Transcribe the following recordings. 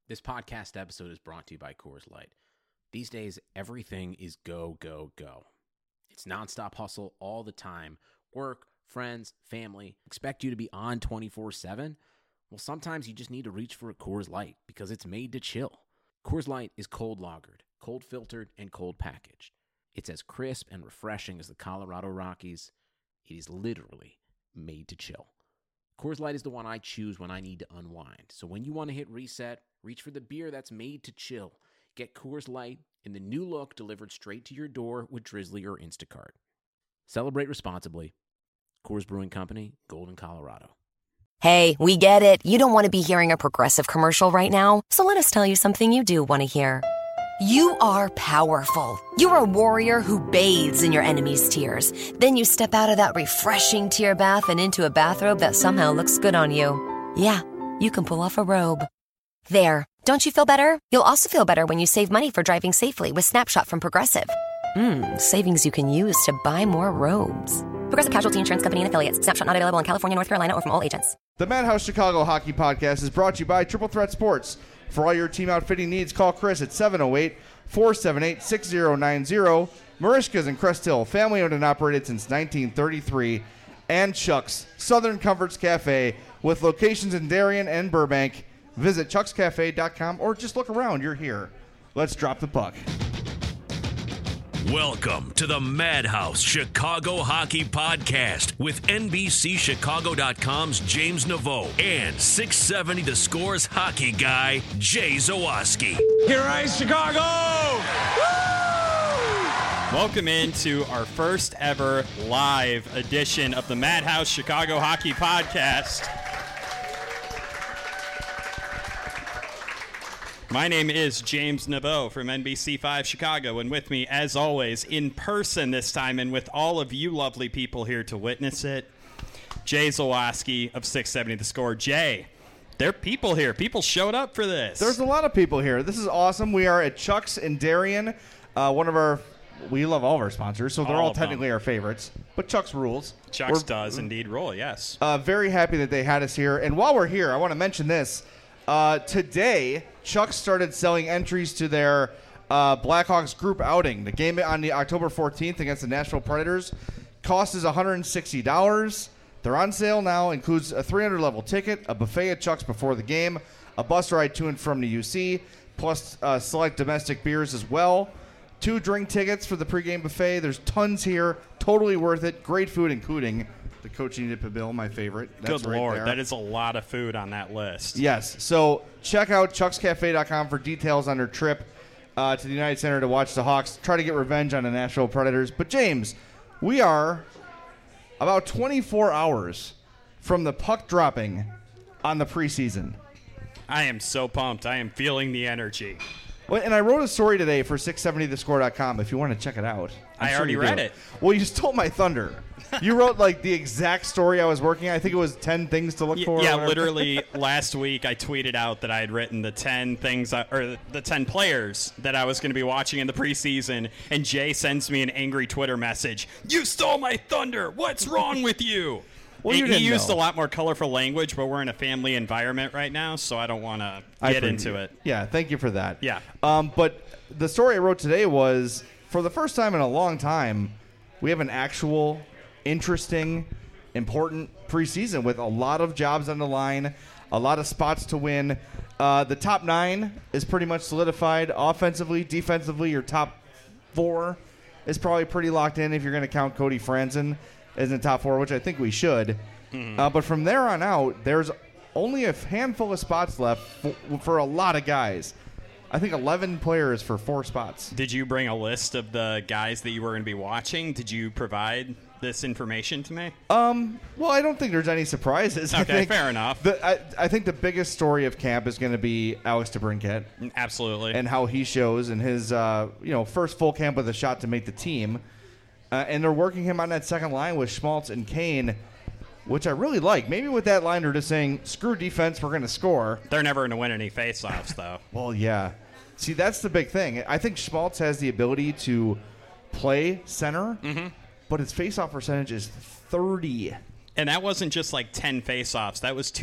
This podcast episode is brought to you by Coors Light. These days, everything is go, go, go. It's nonstop hustle all the time. Work, friends, family, expect you to be on 24/7. Well, sometimes you just need to reach for a Coors Light because it's made to chill. Coors Light is cold lagered, cold filtered, and cold packaged. It's as crisp and refreshing as the Colorado Rockies. It is literally made to chill. Coors Light is the one I choose when I need to unwind. So when you want to hit reset, reach for the beer that's made to chill. Get Coors Light in the new look delivered straight to your door with Drizzly or Instacart. Celebrate responsibly. Coors Brewing Company, Golden, Colorado. Hey, we get it. You don't want to be hearing a Progressive commercial right now, so let us tell you something you do want to hear. You are powerful. You're a warrior who bathes in your enemy's tears. Then you step out of that refreshing tear bath and into a bathrobe that somehow looks good on you. Yeah, you can pull off a robe. There. Don't you feel better? You'll also feel better when you save money for driving safely with Snapshot from Progressive. Savings you can use to buy more robes. Progressive Casualty Insurance Company and Affiliates. Snapshot not available in California, North Carolina, or from all agents. The Madhouse Chicago Hockey Podcast is brought to you by Triple Threat Sports. For all your team outfitting needs, call Chris at 708-478-6090. Marishka's in Crest Hill, family owned and operated since 1933. And Chuck's Southern Comforts Cafe with locations in Darien and Burbank. Visit chuckscafe.com or just look around. You're here. Let's drop the puck. Welcome to the Madhouse Chicago Hockey Podcast with NBCChicago.com's James Naveau and 670 The Score's hockey guy, Jay Zawaski. Here rise Chicago! Woo! Welcome into our first ever live edition of the Madhouse Chicago Hockey Podcast. My name is James Naveau from NBC5 Chicago, and with me, as always, in person this time, and with all of you lovely people here to witness it, Jay Zawaski of 670 The Score. Jay, there are people here. People showed up for this. There's a lot of people here. This is awesome. We are at Chuck's in Darien. We love all of our sponsors, so they're all technically our favorites. But Chuck's rules. Chuck's does indeed rule, yes. Very happy that they had us here. And while we're here, I want to mention this. Today, Chuck started selling entries to their Blackhawks group outing. The game on the October 14th against the Nashville Predators cost is $160. They're on sale now. Includes a 300-level ticket, a buffet at Chuck's before the game, a bus ride to and from the UC, plus select domestic beers as well. 2 drink tickets for the pregame buffet. There's tons here. Totally worth it. Great food, including the Coaching Nipah Bill, my favorite. That's Good right Lord, there. that is a lot of food on that list. Yes, so check out chuckscafe.com for details on their trip to the United Center to watch the Hawks try to get revenge on the Nashville Predators. But James, we are about 24 hours from the puck dropping on the preseason. I am so pumped. I am feeling the energy. Well, and I wrote a story today for 670thescore.com if you want to check it out. I already read it. Well, you stole my thunder. You wrote like the exact story I was working on. I think it was 10 things to look for. Yeah, literally last week I tweeted out that I had written the 10 things or the 10 players that I was going to be watching in the preseason, and Jay sends me an angry Twitter message. You stole my thunder. What's wrong with you? Well, he used a lot more colorful language, but we're in a family environment right now, so I don't want to get into it. Yeah, thank you for that. Yeah. But the story I wrote today was, for the first time in a long time, we have an actual interesting, important preseason with a lot of jobs on the line, a lot of spots to win. The top 9 is pretty much solidified offensively. Defensively, your top 4 is probably pretty locked in if you're going to count Cody Franzen as in the top 4, which I think we should. But from there on out, there's only a handful of spots left for a lot of guys. I think 11 players for 4 spots. Did you bring a list of the guys that you were going to be watching? Did you provide this information to me? Well, I don't think there's any surprises. Okay, fair enough. I think the biggest story of camp is going to be Alex DeBrincat. Absolutely. And how he shows in his first full camp with a shot to make the team. And they're working him on that second line with Schmaltz and Kane, which I really like. Maybe with that line they're just saying, screw defense, we're going to score. They're never going to win any faceoffs, though. Well, yeah. See, that's the big thing. I think Schmaltz has the ability to play center, but his faceoff percentage is 30. And that wasn't just like 10 faceoffs. That was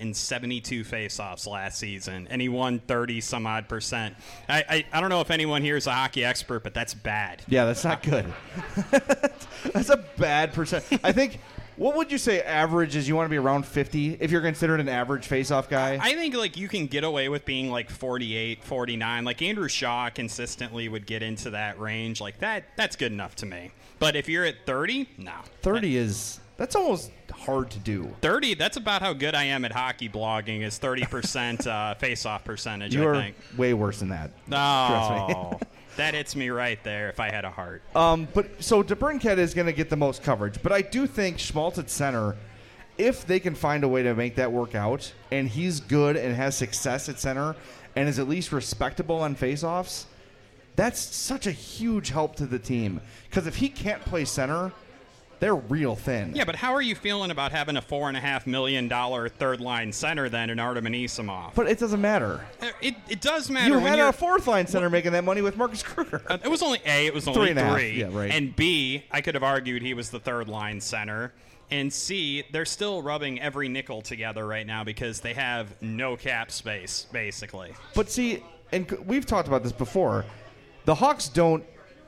272 faceoffs last season, and he won 30-some-odd%. I don't know if anyone here is a hockey expert, but that's bad. Yeah, that's not good. That's a bad percent. I think, what would you say average is? You want to be around 50 if you're considered an average faceoff guy? I think like you can get away with being like 48, 49. Like Andrew Shaw consistently would get into that range. Like that's good enough to me. But if you're at 30, no. 30 is... That's almost hard to do. 30, that's about how good I am at hockey blogging, is 30% face-off percentage, You I are think. way worse than that. Oh, that hits me right there if I had a heart. But so DeBrincat is going to get the most coverage. But I do think Schmaltz at center, if they can find a way to make that work out, and he's good and has success at center and is at least respectable on faceoffs, that's such a huge help to the team. Because if he can't play center... They're real thin. Yeah, but how are you feeling about having a $4.5 million third-line center then in Artem Anisimov? But it doesn't matter. It does matter. You when had you're a fourth-line center making that money with Marcus Kruger. It was only A, it was only 3.5. three. Yeah, right. And B, I could have argued he was the third-line center. And C, they're still rubbing every nickel together right now because they have no cap space, basically. But see, and we've talked about this before, the Hawks don't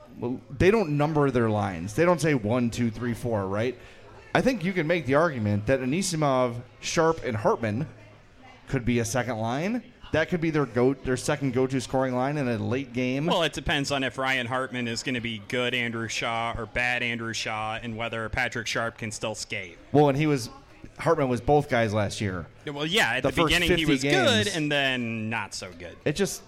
number their lines. They don't say 1, 2, 3, 4, right? I think you can make the argument that Anisimov, Sharp, and Hartman could be a second line. That could be their second go-to scoring line in a late game. Well, it depends on if Ryan Hartman is going to be good Andrew Shaw or bad Andrew Shaw, and whether Patrick Sharp can still skate. Well, and Hartman was both guys last year. Well, yeah, at The the first beginning he 50 was games. good, and then not so good. It just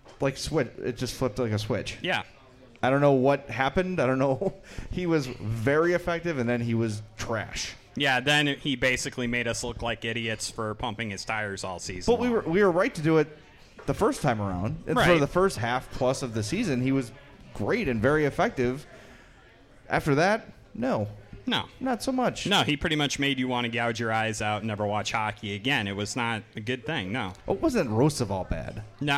flipped like a switch. Yeah. I don't know what happened. I don't know. He was very effective, and then he was trash. Yeah, then he basically made us look like idiots for pumping his tires all season. But we were right to do it the first time around. And for Right. the first half plus of the season, he was great and very effective. After that, no, not so much. No, he pretty much made you want to gouge your eyes out and never watch hockey again. It was not a good thing, no. It wasn't Roosevelt bad.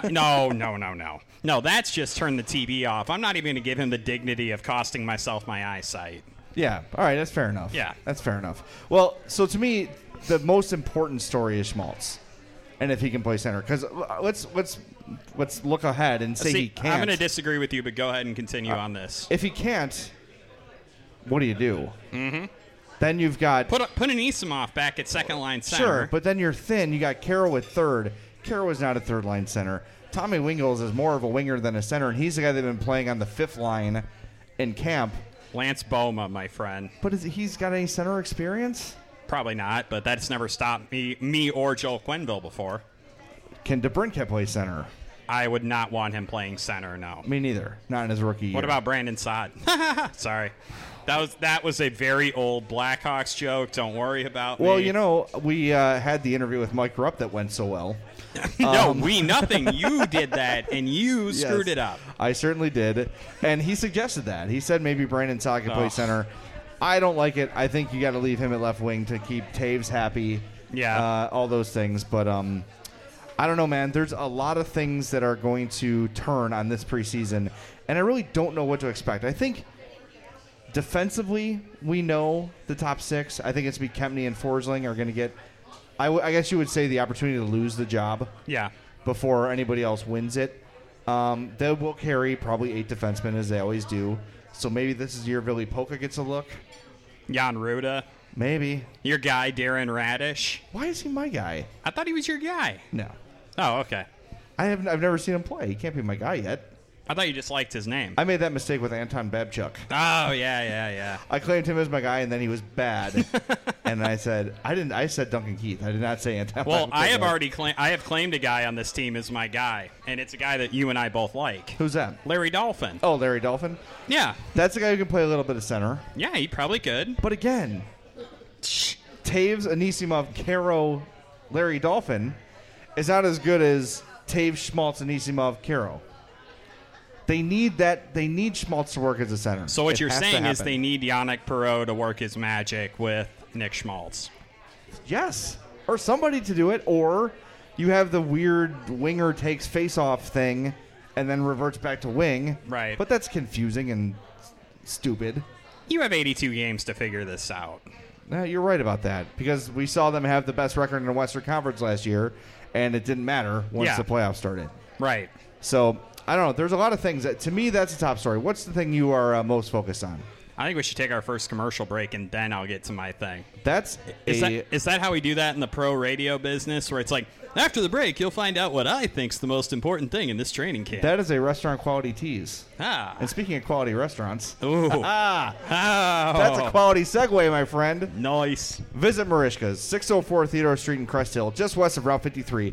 No, that's just turn the TV off. I'm not even going to give him the dignity of costing myself my eyesight. Yeah, all right, that's fair enough. Yeah. That's fair enough. Well, so to me, the most important story is Schmaltz, and if he can play center. Because let's look ahead and say he can't. I'm going to disagree with you, but go ahead and continue on this. If he can't, what do you do? Mm-hmm. Then you've got... Put Anisimov back at second-line center. Sure, but then you're thin. You got Carroll at third. Carroll is not a third-line center. Tommy Wingels is more of a winger than a center, and he's the guy that's been playing on the fifth line in camp. Lance Boma, my friend. But he's got any center experience? Probably not, but that's never stopped me or Joel Quenneville before. Can DeBrincat play center? I would not want him playing center, no. Me neither. Not in his rookie year. What about Brandon Saad? Sorry. That was a very old Blackhawks joke. Don't worry about me. Well, you know, we had the interview with Mike Rupp that went so well. Nothing. You did that, and you screwed Yes, it up. I certainly did. And he suggested that. He said maybe Brandon Saad could play Ugh. center. I don't like it. I think you got to leave him at left wing to keep Taves happy. Yeah. All those things. But I don't know, man. There's a lot of things that are going to turn on this preseason, and I really don't know what to expect. I think defensively, we know the top six. I think it's going to be Kempny and Forsling are going to get, I guess you would say, the opportunity to lose the job Yeah. before anybody else wins it. They will carry probably 8 defensemen, as they always do. So maybe this is year Billy Polka gets a look. Jan Ruda. Maybe. Your guy, Darren Radish. Why is he my guy? I thought he was your guy. No. Oh, okay. I've never seen him play. He can't be my guy yet. I thought you just liked his name. I made that mistake with Anton Babchuk. Oh, yeah. I claimed him as my guy, and then he was bad. And I said Duncan Keith. I did not say Anton. Well, Babchuk. I have claimed a guy on this team as my guy, and it's a guy that you and I both like. Who's that? Larry Dolphin. Oh, Larry Dolphin. Yeah. That's the guy who can play a little bit of center. Yeah, he probably could. But again, Taves, Anisimov, Caro, Larry Dolphin is not as good as Taves, Schmaltz, Anisimov, Caro. They need that. They need Schmaltz to work as a center. So what It you're has to saying is happen. they need Yannick Perreault to work his magic with Nick Schmaltz. Yes, or somebody to do it, or you have the weird winger takes face-off thing and then reverts back to wing. Right. But that's confusing and stupid. You have 82 games to figure this out. You're right about that, because we saw them have the best record in the Western Conference last year, and it didn't matter once the playoffs started. Right. So, I don't know. There's a lot of things. To me, that's the top story. What's the thing you are most focused on? I think we should take our first commercial break, and then I'll get to my thing. Is that how we do that in the pro radio business, where it's like, after the break, you'll find out what I think's the most important thing in this training camp? That is a restaurant quality tease. Ah. And speaking of quality restaurants, Ooh. that's a quality segue, my friend. Nice. Visit Marishka's, 604 Theodore Street in Crest Hill, just west of Route 53,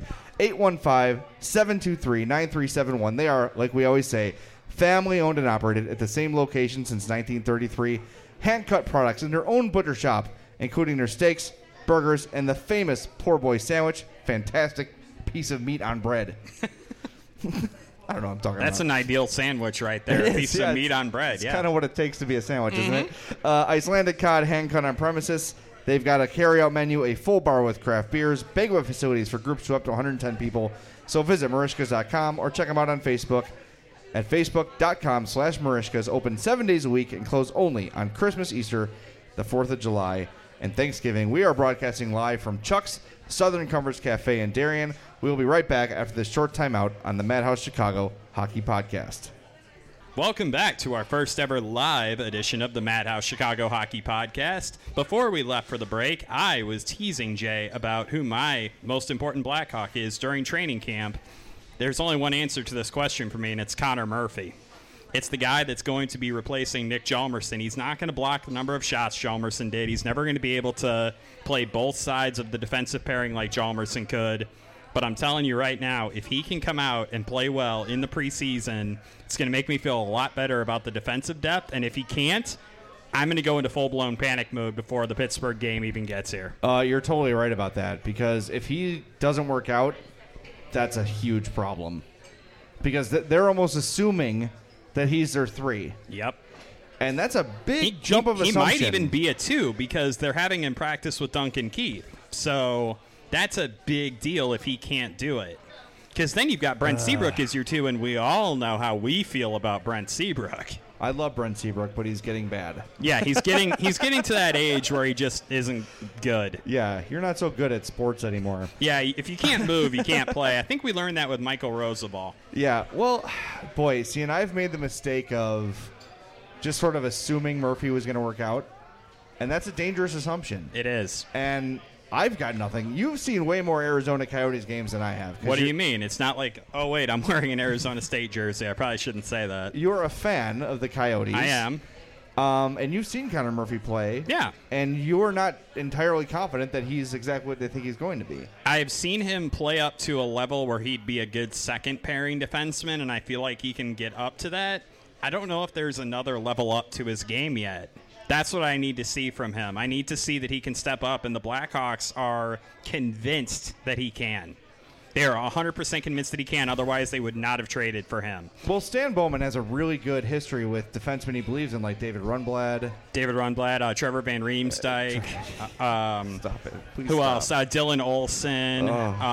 815-723-9371. They are, like we always say, family owned and operated at the same location since 1933. Hand-cut products in their own butcher shop, including their steaks, burgers, and the famous Poor Boy sandwich. Fantastic piece of meat on bread. I don't know what I'm talking about. That's an ideal sandwich right there. A piece of meat on bread. It's kind of what it takes to be a sandwich, isn't it? Icelandic cod, hand-cut on premises. They've got a carry-out menu, a full bar with craft beers, banquet facilities for groups to up to 110 people. So visit Marishkas.com or check them out on Facebook at facebook.com/Marishkas. Open 7 days a week and close only on Christmas, Easter, the 4th of July, and Thanksgiving. We are broadcasting live from Chuck's Southern Comforts Cafe in Darien. We will be right back after this short timeout on the Madhouse Chicago Hockey Podcast. Welcome back to our first ever live edition of the Madhouse Chicago Hockey Podcast. Before we left for the break, I was teasing Jay about who my most important Blackhawk is during training camp. There's only one answer to this question for me, and it's Connor Murphy. It's the guy that's going to be replacing Nick Hjalmarsson. He's not going to block the number of shots Hjalmarsson did. He's never going to be able to play both sides of the defensive pairing like Hjalmarsson could. But I'm telling you right now, if he can come out and play well in the preseason, it's going to make me feel a lot better about the defensive depth. And if he can't, I'm going to go into full-blown panic mode before the Pittsburgh game even gets here. You're totally right about that, because if he doesn't work out, that's a huge problem. Because they're almost assuming that he's their 3. Yep. And that's a big jump of assumption. He might even be a 2 because they're having him practice with Duncan Keith. So that's a big deal if he can't do it. Because then you've got Brent Seabrook as your 2, and we all know how we feel about Brent Seabrook. I love Brent Seabrook, but he's getting bad. Yeah, he's getting to that age where he just isn't good. Yeah, you're not so good at sports anymore. Yeah, if you can't move, you can't play. I think we learned that with Michael Rozabal. Yeah, well, boy, see, and I've made the mistake of just sort of assuming Murphy was going to work out, and that's a dangerous assumption. It is. And I've got nothing. You've seen way more Arizona Coyotes games than I have. What do you mean? It's not like, oh, wait, I'm wearing an Arizona State jersey. I probably shouldn't say that. You're a fan of the Coyotes. I am. And you've seen Connor Murphy play. Yeah. And you're not entirely confident that he's exactly what they think he's going to be. I've seen him play up to a level where he'd be a good second-pairing defenseman, and I feel like he can get up to that. I don't know if there's another level up to his game yet. That's what I need to see from him. I need to see that he can step up, and the Blackhawks are convinced that he can. They are 100% convinced that he can. Otherwise, they would not have traded for him. Well, Stan Bowman has a really good history with defensemen he believes in, like David Rundblad. Trevor Van Riemsdyk. Stop it. Please who stop. else? Dylan Olsen.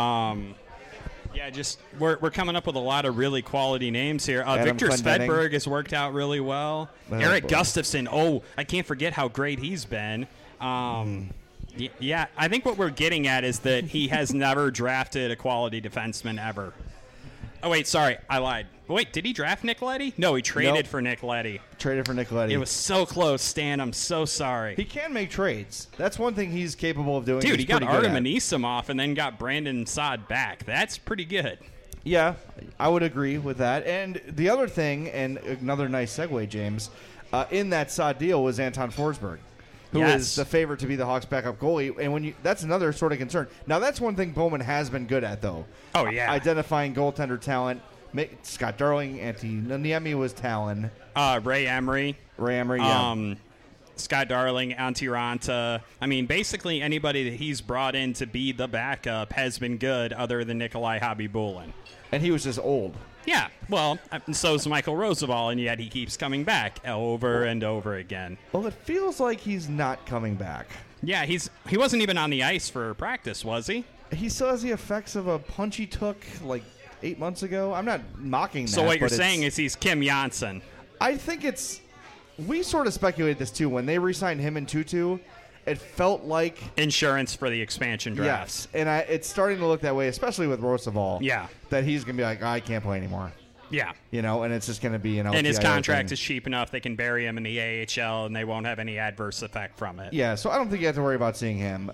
We're coming up with a lot of really quality names here. Victor Svedberg has worked out really well. Eric Gustafsson. Oh, I can't forget how great he's been. Yeah, I think what we're getting at is that he has never drafted a quality defenseman ever. Oh, wait, sorry. I lied. Wait, did he draft Nick Leddy? No, he traded for Nick Leddy. Traded for Nick Leddy. It was so close, Stan. I'm so sorry. He can make trades. That's one thing he's capable of doing. Dude, he got Artem Anisimov and then got Brandon Saad back. That's pretty good. Yeah, I would agree with that. And the other thing, and another nice segue, James, in that Saad deal was Anton Forsberg, who is the favorite to be the Hawks' backup goalie. And that's another sort of concern. Now, that's one thing Bowman has been good at, though. Oh, yeah. Identifying goaltender talent. Scott Darling, Niemi was Talon. Ray Emery, yeah. Scott Darling, Antti Ranta. I mean, basically anybody that he's brought in to be the backup has been good other than Nikolai Khabibulin. And he was just old. Yeah, well, and so is Michael Rozabal, and yet he keeps coming back over and over again. Well, it feels like he's not coming back. Yeah, he wasn't even on the ice for practice, was he? He still has the effects of a punch he took, 8 months ago. I'm not mocking that. So what you're saying is he's Kim Janssen. I think we sort of speculated this too when they re-signed him and Tutu, it felt like insurance for the expansion draft. Yes, and it's starting to look that way, especially with Roosevelt. Yeah. That he's going to be like, I can't play anymore. Yeah. And it's just going to be, and his contract is cheap enough they can bury him in the AHL and they won't have any adverse effect from it. Yeah, so I don't think you have to worry about seeing him.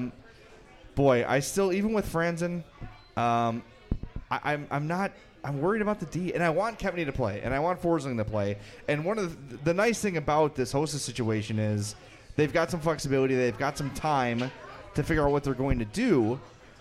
Boy, I still, even with Franzen, I'm worried about the D, and I want Kempny to play, and I want Forsling to play. And one of the nice thing about this Hossa situation is they've got some flexibility, they've got some time to figure out what they're going to do.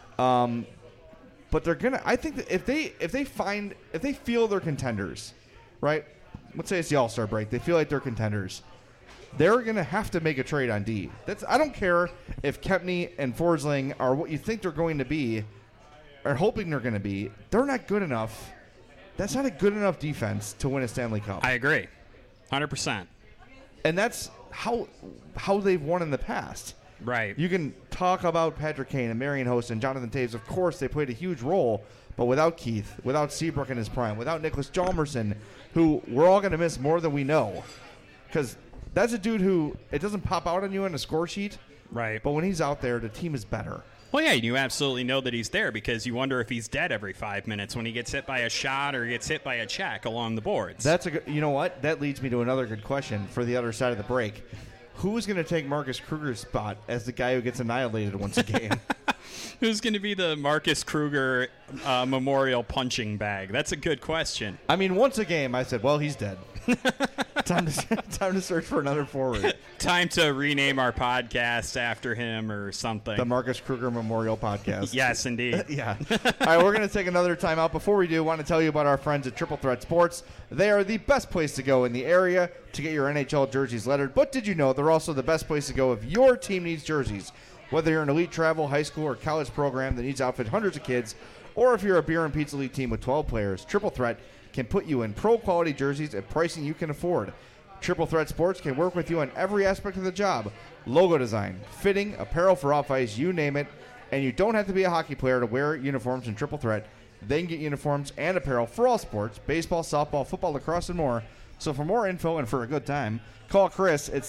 But they're gonna. I think that if they feel they're contenders, right? Let's say it's the All-Star break. They feel like they're contenders. They're gonna have to make a trade on D. I don't care if Kempny and Forsling are what you think they're going to be, or hoping they're going to be. They're not good enough. That's not a good enough defense to win a Stanley Cup. I agree, 100%. And that's how they've won in the past. Right. You can talk about Patrick Kane and Marian Hossa and Jonathan Toews. Of course, they played a huge role, but without Keith, without Seabrook in his prime, without Nicholas Hjalmarsson, who we're all going to miss more than we know, because that's a dude who it doesn't pop out on you on a score sheet. Right. But when he's out there, the team is better. Well, yeah, you absolutely know that he's there because you wonder if he's dead every 5 minutes when he gets hit by a shot or gets hit by a check along the boards. That's a good. You know what? That leads me to another good question for the other side of the break. Who is going to take Marcus Kruger's spot as the guy who gets annihilated once a game? Who's going to be the Marcus Kruger memorial punching bag? That's a good question. I mean, once a game, I said, well, he's dead. Time to search for another forward. Time to rename our podcast after him or something. The Marcus Kruger Memorial Podcast. Yes, indeed. Yeah. All right, we're going to take another time out. Before we do, I want to tell you about our friends at Triple Threat Sports. They are the best place to go in the area to get your NHL jerseys lettered. But did you know they're also the best place to go if your team needs jerseys? Whether you're an elite travel, high school, or college program that needs to outfit hundreds of kids, or if you're a beer and pizza league team with 12 players, Triple Threat can put you in pro-quality jerseys at pricing you can afford. Triple Threat Sports can work with you on every aspect of the job. Logo design, fitting, apparel for off-ice, you name it. And you don't have to be a hockey player to wear uniforms in Triple Threat. They can get uniforms and apparel for all sports, baseball, softball, football, lacrosse, and more. So for more info and for a good time, call Chris at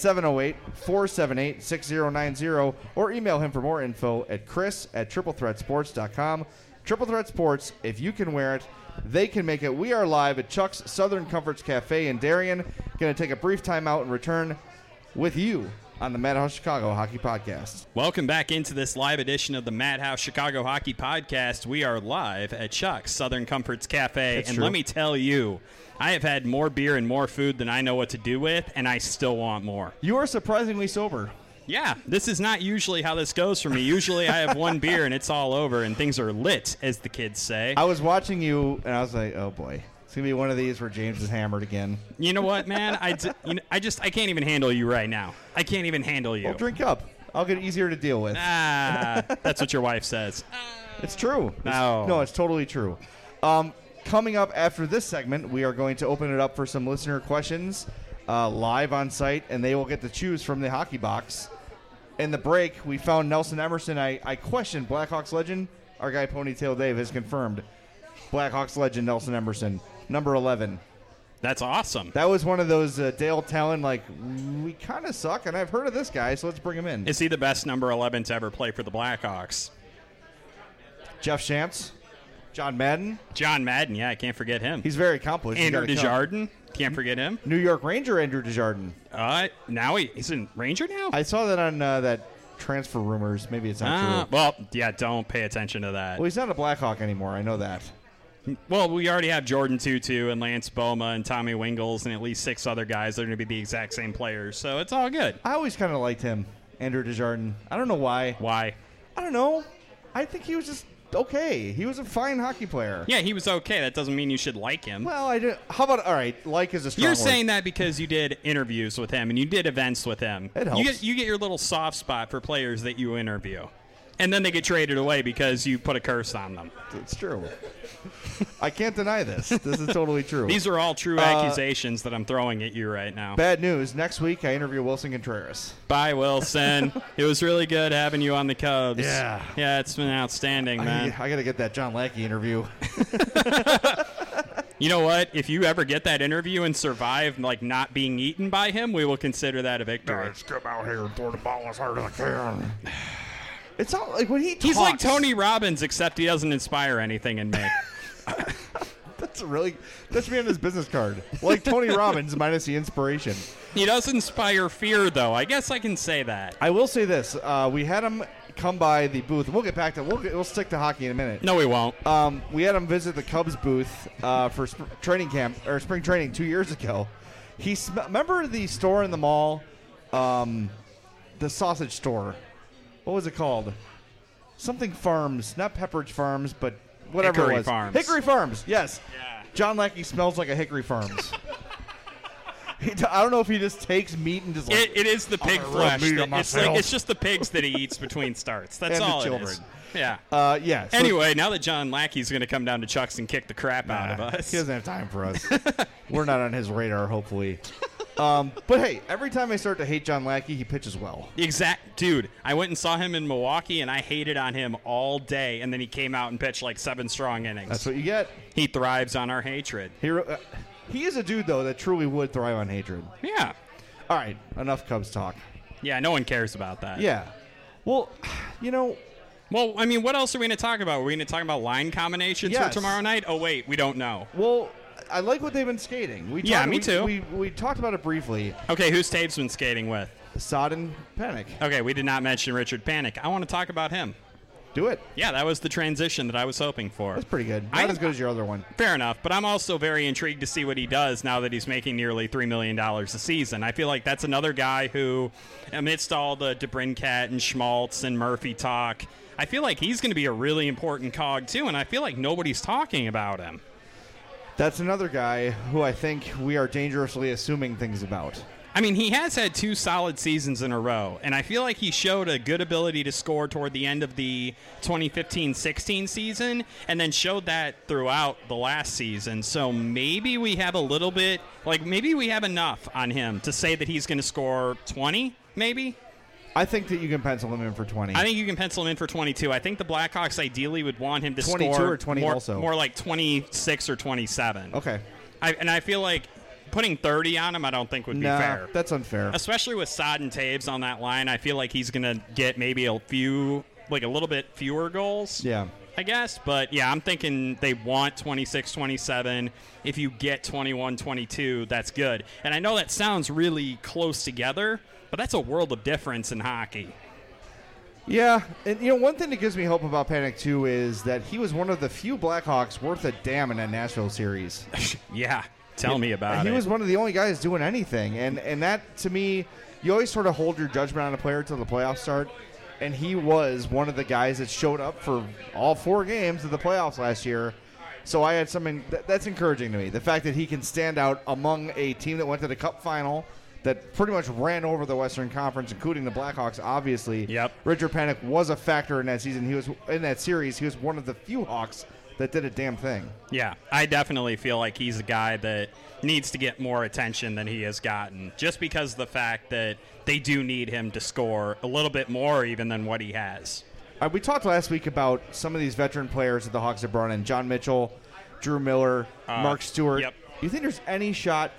708-478-6090 or email him for more info at chris@triplethreatsports.com. Triple Threat Sports, if you can wear it, they can make it. We are live at Chuck's Southern Comforts Cafe in Darien. Going to take a brief time out and return with you on the Madhouse Chicago Hockey Podcast. Welcome back into this live edition of the Madhouse Chicago Hockey Podcast. We are live at Chuck's Southern Comforts Cafe. That's and true. Let me tell you, I have had more beer and more food than I know what to do with, and I still want more. You are surprisingly sober. Yeah, this is not usually how this goes for me. Usually I have one beer and it's all over and things are lit, as the kids say. I was watching you, and I was like, oh, boy. It's going to be one of these where James is hammered again. You know what, man? I can't even handle you right now. I can't even handle you. Well, drink up. I'll get easier to deal with. That's what your wife says. It's true. No. It's totally true. Coming up after this segment, we are going to open it up for some listener questions live on site, and they will get to choose from the hockey box. In the break, we found Nelson Emerson. I questioned Blackhawks legend. Our guy Ponytail Dave has confirmed Blackhawks legend Nelson Emerson, number 11. That's awesome. That was one of those Dale Talon, like, we kind of suck, and I've heard of this guy, so let's bring him in. Is he the best number 11 to ever play for the Blackhawks? Jeff Shantz, John Madden. John Madden, yeah, I can't forget him. He's very accomplished. Andrew Desjardins, can't forget him. New York Ranger Andrew Desjardins. Now he's in Ranger now? I saw that on that transfer rumors. Maybe it's not true. Well, yeah, don't pay attention to that. Well, he's not a Blackhawk anymore. I know that. Well, we already have Jordan Tutu and Lance Boma and Tommy Wingles and at least 6 other guys that are going to be the exact same players, so it's all good. I always kind of liked him, Andrew Desjardins. I don't know why. Why? I don't know. I think he was just okay. He was a fine hockey player. Yeah, he was okay. That doesn't mean you should like him. Well, I do. How about, all right, like is a strong You're word. saying that because you did interviews with him and you did events with him. It helps. You get your little soft spot for players that you interview. And then they get traded away because you put a curse on them. It's true. I can't deny this. This is totally true. These are all true accusations that I'm throwing at you right now. Bad news. Next week, I interview Wilson Contreras. Bye, Wilson. It was really good having you on the Cubs. Yeah. Yeah, it's been outstanding, man. I got to get that John Lackey interview. You know what? If you ever get that interview and survive, like, not being eaten by him, we will consider that a victory. Guys, come out here and throw the ball as hard as I can. It's not like when he talks. He's like Tony Robbins, except he doesn't inspire anything in me. That's me on his business card. Like Tony Robbins minus the inspiration. He does inspire fear, though. I guess I can say that. I will say this. We had him come by the booth. We'll get back to we'll stick to hockey in a minute. No, we won't. We had him visit the Cubs booth for training camp or spring training 2 years ago. Remember the store in the mall, the sausage store. What was it called? Something Farms, not Pepperidge Farms, but whatever Hickory it was. Farms. Hickory Farms. Yes. Yeah. John Lackey smells like a Hickory Farms. I don't know if he just takes meat and just like It is the pig rub flesh. meat on myself. It's just the pigs that he eats between starts. That's And the all children. it is. Yeah. yeah. So Anyway, now that John Lackey's going to come down to Chuck's and kick the crap out of us. He doesn't have time for us. We're not on his radar, hopefully. But hey, every time I start to hate John Lackey, he pitches well. Dude, I went and saw him in Milwaukee, and I hated on him all day, and then he came out and pitched like 7 strong innings. That's what you get. He thrives on our hatred. He is a dude, though, that truly would thrive on hatred. Yeah. All right, enough Cubs talk. Yeah, no one cares about that. Yeah. Well, Well, I mean, what else are we going to talk about? Are we going to talk about line combinations Yes. for tomorrow night? Oh, wait, we don't know. well, I like what they've been skating. Me too. We talked about it briefly. Okay, who's Taves been skating with? Sodden Panic. Okay, we did not mention Richard Panik. I want to talk about him. Do it. Yeah, that was the transition that I was hoping for. That's pretty good. Not as good as your other one. Fair enough, but I'm also very intrigued to see what he does now that he's making nearly $3 million a season. I feel like that's another guy who, amidst all the DeBrincat and Schmaltz and Murphy talk, I feel like he's going to be a really important cog too, and I feel like nobody's talking about him. That's another guy who I think we are dangerously assuming things about. I mean, he has had 2 solid seasons in a row, and I feel like he showed a good ability to score toward the end of the 2015-16 season, and then showed that throughout the last season. So maybe we have a little bit, maybe we have enough on him to say that he's going to score 20, maybe? I think that you can pencil him in for 20. I think you can pencil him in for 22. I think the Blackhawks ideally would want him to 22 score or 20 also. more like 26 or 27. Okay. I feel like putting 30 on him, I don't think would be fair. That's unfair. Especially with Sod and Taves on that line, I feel like he's going to get maybe a little bit fewer goals. Yeah. I guess. But, yeah, I'm thinking they want 26, 27. If you get 21, 22, that's good. And I know that sounds really close together, but that's a world of difference in hockey. Yeah, and one thing that gives me hope about Panic too is that he was one of the few Blackhawks worth a damn in that Nashville series. Yeah, tell me about it. He was one of the only guys doing anything, and that to me, you always sort of hold your judgment on a player until the playoffs start, and he was one of the guys that showed up for all 4 games of the playoffs last year. So I had something that's encouraging to me. The fact that he can stand out among a team that went to the Cup final, that pretty much ran over the Western Conference, including the Blackhawks, obviously. Yep. Richard Panik was a factor in that season. He was in that series. He was one of the few Hawks that did a damn thing. Yeah, I definitely feel like he's a guy that needs to get more attention than he has gotten, just because of the fact that they do need him to score a little bit more even than what he has. We talked last week about some of these veteran players that the Hawks have brought in. John Mitchell, Drew Miller, Mark Stewart. Yep. Do you think there's any shot?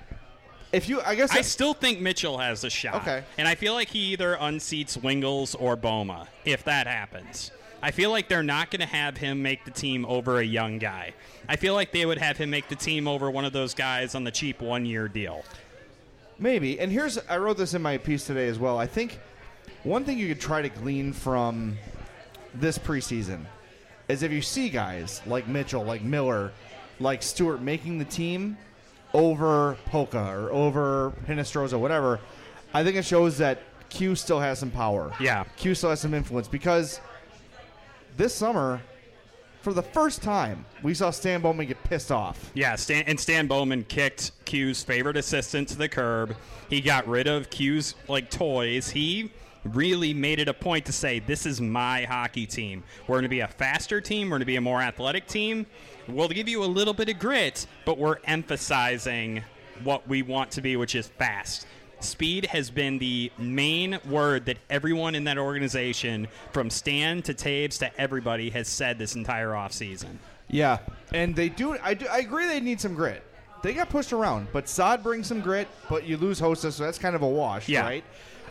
I still think Mitchell has a shot. Okay. And I feel like he either unseats Wingles or Boma, if that happens. I feel like they're not going to have him make the team over a young guy. I feel like they would have him make the team over one of those guys on the cheap 1-year deal. Maybe. And I wrote this in my piece today as well. I think one thing you could try to glean from this preseason is if you see guys like Mitchell, like Miller, like Stewart making the team over Polka or over Hinestroza, whatever, I think it shows that Q still has some power. Yeah. Q still has some influence because this summer, for the first time, we saw Stan Bowman get pissed off. Yeah, Stan Bowman kicked Q's favorite assistant to the curb. He got rid of Q's toys. He really made it a point to say, this is my hockey team. We're going to be a faster team. We're going to be a more athletic team. We'll give you a little bit of grit, but we're emphasizing what we want to be, which is fast. Speed has been the main word that everyone in that organization, from Stan to Taves to everybody, has said this entire offseason. Yeah. And they do. I agree they need some grit. They got pushed around, but Saad brings some grit, but you lose Hossa, so that's kind of a wash, right?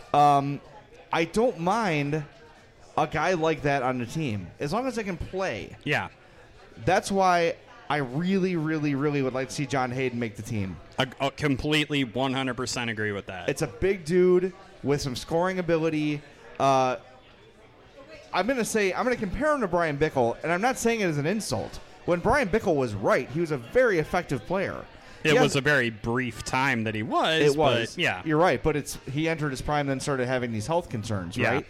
I don't mind a guy like that on the team, as long as they can play. Yeah. That's why I really, really, really would like to see John Hayden make the team. I completely 100% agree with that. It's a big dude with some scoring ability. I'm going to compare him to Brian Bickle, and I'm not saying it as an insult. When Brian Bickle was right, he was a very effective player. It was a very brief time that he was. It was. But, yeah. You're right, but he entered his prime, then started having these health concerns, right?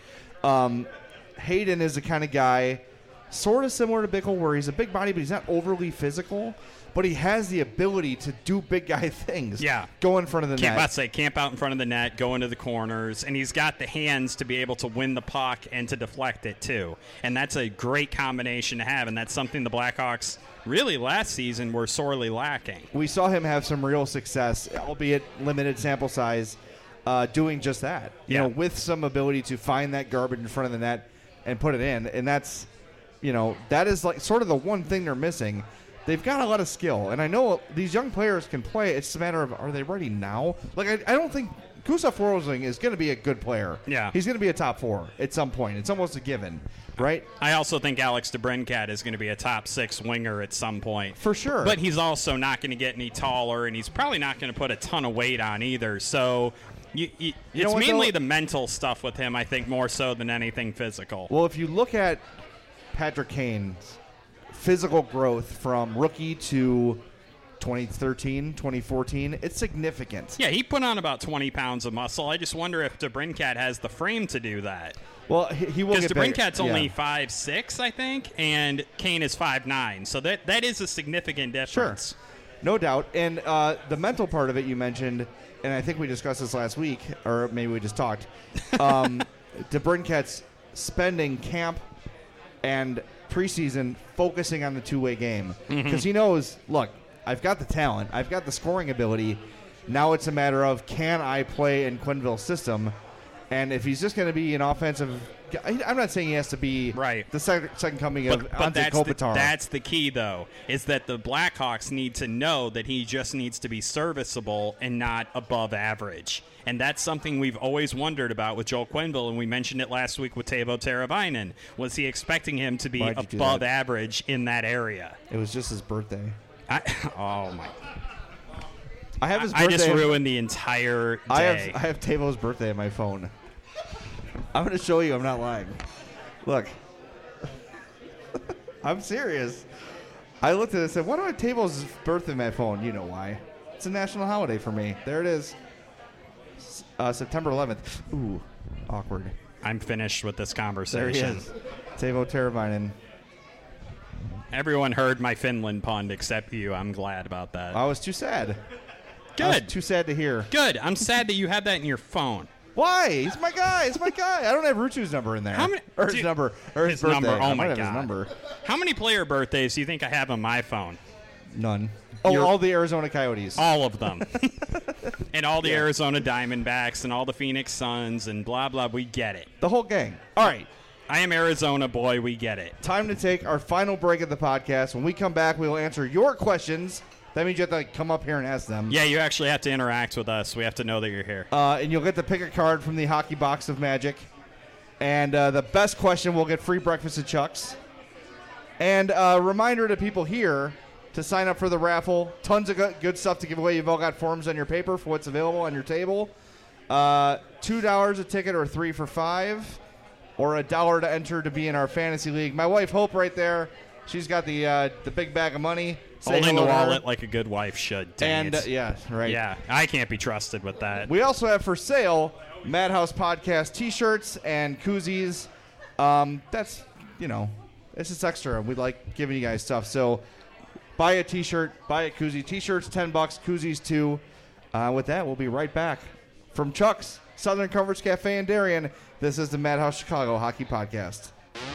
Hayden is the kind of guy, sort of similar to Bickle, where he's a big body, but he's not overly physical. But he has the ability to do big guy things. Yeah. Go in front of the net. Camp out in front of the net, go into the corners, and he's got the hands to be able to win the puck and to deflect it, too. And that's a great combination to have, and that's something the Blackhawks really last season were sorely lacking. We saw him have some real success, albeit limited sample size, doing just that. You know, with some ability to find that garbage in front of the net and put it in. And that's, that is like sort of the one thing they're missing. They've got a lot of skill, and I know these young players can play. It's just a matter of, are they ready now? Like, I don't think Gustav Forsling is going to be a good player. Yeah. He's going to be a top 4 at some point. It's almost a given, right? I also think Alex DeBrincat is going to be a top 6 winger at some point. For sure. But he's also not going to get any taller, and he's probably not going to put a ton of weight on either. So it's mainly the mental stuff with him, I think, more so than anything physical. Well, if you look at Patrick Kane's physical growth from rookie to 2013, 2014, it's significant. Yeah, he put on about 20 pounds of muscle. I just wonder if DeBrincat has the frame to do that. Well, he will get because DeBrincat's only 5'6", I think, and Kane is 5'9", so that is a significant difference. Sure, no doubt. And the mental part of it you mentioned, and I think we discussed this last week, or maybe we just talked, DeBrincat's spending camp and preseason focusing on the two-way game because he knows, look, I've got the talent, I've got the scoring ability. Now it's a matter of, can I play in Quenneville's system? And if he's just going to be an offensive, I'm not saying he has to be the second coming of Ante Kopitar. That's the key, though, is that the Blackhawks need to know that he just needs to be serviceable and not above average. And that's something we've always wondered about with Joel Quenneville, and we mentioned it last week with Teuvo Teravainen. Was he expecting him to be above average in that area? It was just his birthday. Oh, my. I have his birthday. I just ruined the entire day. I have Tavo's birthday on my phone. I'm going to show you. I'm not lying. Look. I'm serious. I looked at it and said, why do I have Tavo's birthday on my phone? You know why. It's a national holiday for me. There it is. September 11th. Ooh, awkward. I'm finished with this conversation. There he is. Teuvo Teravainen. Everyone heard my Finland pun except you. I'm glad about that. I was too sad. Good. I was too sad to hear. Good. I'm sad that you have that in your phone. Why? He's my guy. It's my guy. I don't have Rutu's number in there. How many? His number. Or his birthday. Number. Oh, I my have God. his number. How many player birthdays do you think I have on my phone? None. Oh, all the Arizona Coyotes. All of them. And all the Arizona Diamondbacks and all the Phoenix Suns and blah, blah. We get it. The whole gang. All right. I am Arizona boy. We get it. Time to take our final break of the podcast. When we come back, we will answer your questions. That means you have to come up here and ask them. Yeah, you actually have to interact with us. We have to know that you're here. And you'll get to pick a card from the Hockey Box of Magic. And the best question will get free breakfast at Chuck's. And a reminder to people here to sign up for the raffle. Tons of good stuff to give away. You've all got forms on your paper for what's available on your table. $2 a ticket or $3 for $5. Or $1 to enter to be in our fantasy league. My wife, Hope, right there. She's got the big bag of money. Holding the wallet like a good wife should. And, yeah, right. Yeah, I can't be trusted with that. We also have for sale Madhouse Podcast T-shirts and koozies. That's, it's just extra. We like giving you guys stuff. So buy a T-shirt, buy a koozie. T-shirts, $10. Koozies, $2. With that, we'll be right back. From Chuck's, Southern Comforts Cafe in Darien, this is the Madhouse Chicago Hockey Podcast.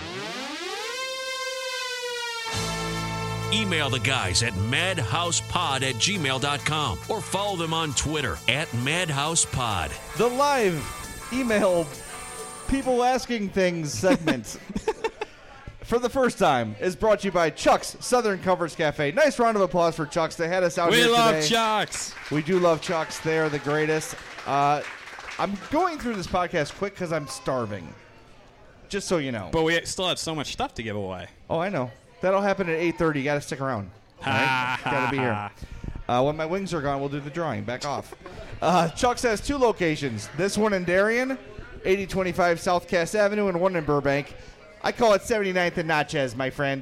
Email the guys at madhousepod@gmail.com or follow them on Twitter @madhousepod. The live email people asking things segment for the first time, is brought to you by Chuck's Southern Comforts Cafe. Nice round of applause for Chuck's. They had us out here today. We love Chuck's. We do love Chuck's. They are the greatest. I'm going through this podcast quick because I'm starving. Just so you know. But we still have so much stuff to give away. Oh, I know. That'll happen at 8:30. You got to stick around. All right? Got to be here. When my wings are gone, we'll do the drawing. Back off. Chuck's has 2 locations. This one in Darien, 8025 South Cass Avenue, and one in Burbank. I call it 79th and Natchez, my friend.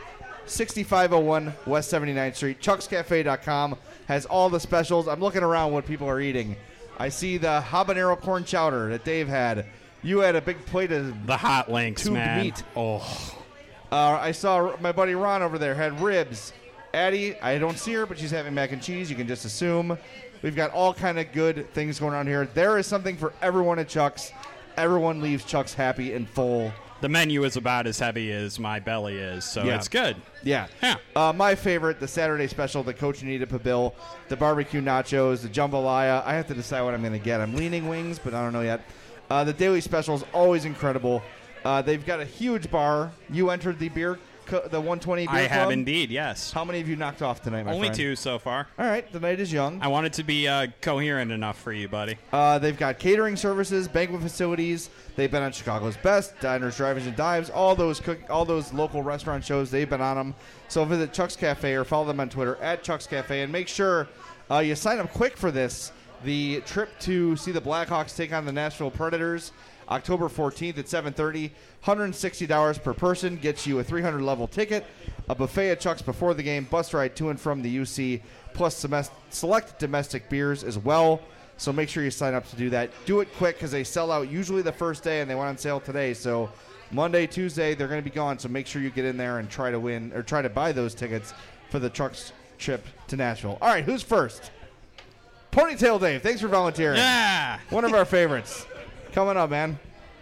6501 West 79th Street. ChucksCafe.com has all the specials. I'm looking around what people are eating. I see the habanero corn chowder that Dave had. You had a big plate of the hot links, tubed man. meat. Oh. I saw my buddy Ron over there had ribs. Addie, I don't see her, but she's having mac and cheese. You can just assume. We've got all kind of good things going on here. There is something for everyone at Chuck's. Everyone leaves Chuck's happy and full. The menu is about as heavy as my belly is, so it's good. Yeah. My favorite, the Saturday special, the Coach Anita Pabil, the barbecue nachos, the jambalaya. I have to decide what I'm going to get. I'm leaning wings, but I don't know yet. The daily special is always incredible. They've got a huge bar. You entered the the 120 beer I club? have indeed, yes. How many have you knocked off tonight, my Only friend? 2 so far. All right, the night is young. I want it to be coherent enough for you, buddy. They've got catering services, banquet facilities. They've been on Chicago's Best, Diners, Drive-Ins, and Dives. All those local restaurant shows, they've been on them. So visit Chuck's Cafe or follow them on Twitter at Chuck's Cafe. And make sure you sign up quick for this. The trip to see the Blackhawks take on the Nashville Predators, October 14th at 7:30. $160 per person gets you a 300-level ticket, a buffet at Chuck's before the game, bus ride to and from the UC, plus select domestic beers as well. So make sure you sign up to do that. Do it quick because they sell out usually the first day, and they went on sale today. So Monday, Tuesday, they're going to be gone. So make sure you get in there and try to buy those tickets for the Chuck's trip to Nashville. All right, who's first? Ponytail Dave, thanks for volunteering. Yeah. One of our favorites. Coming up, man.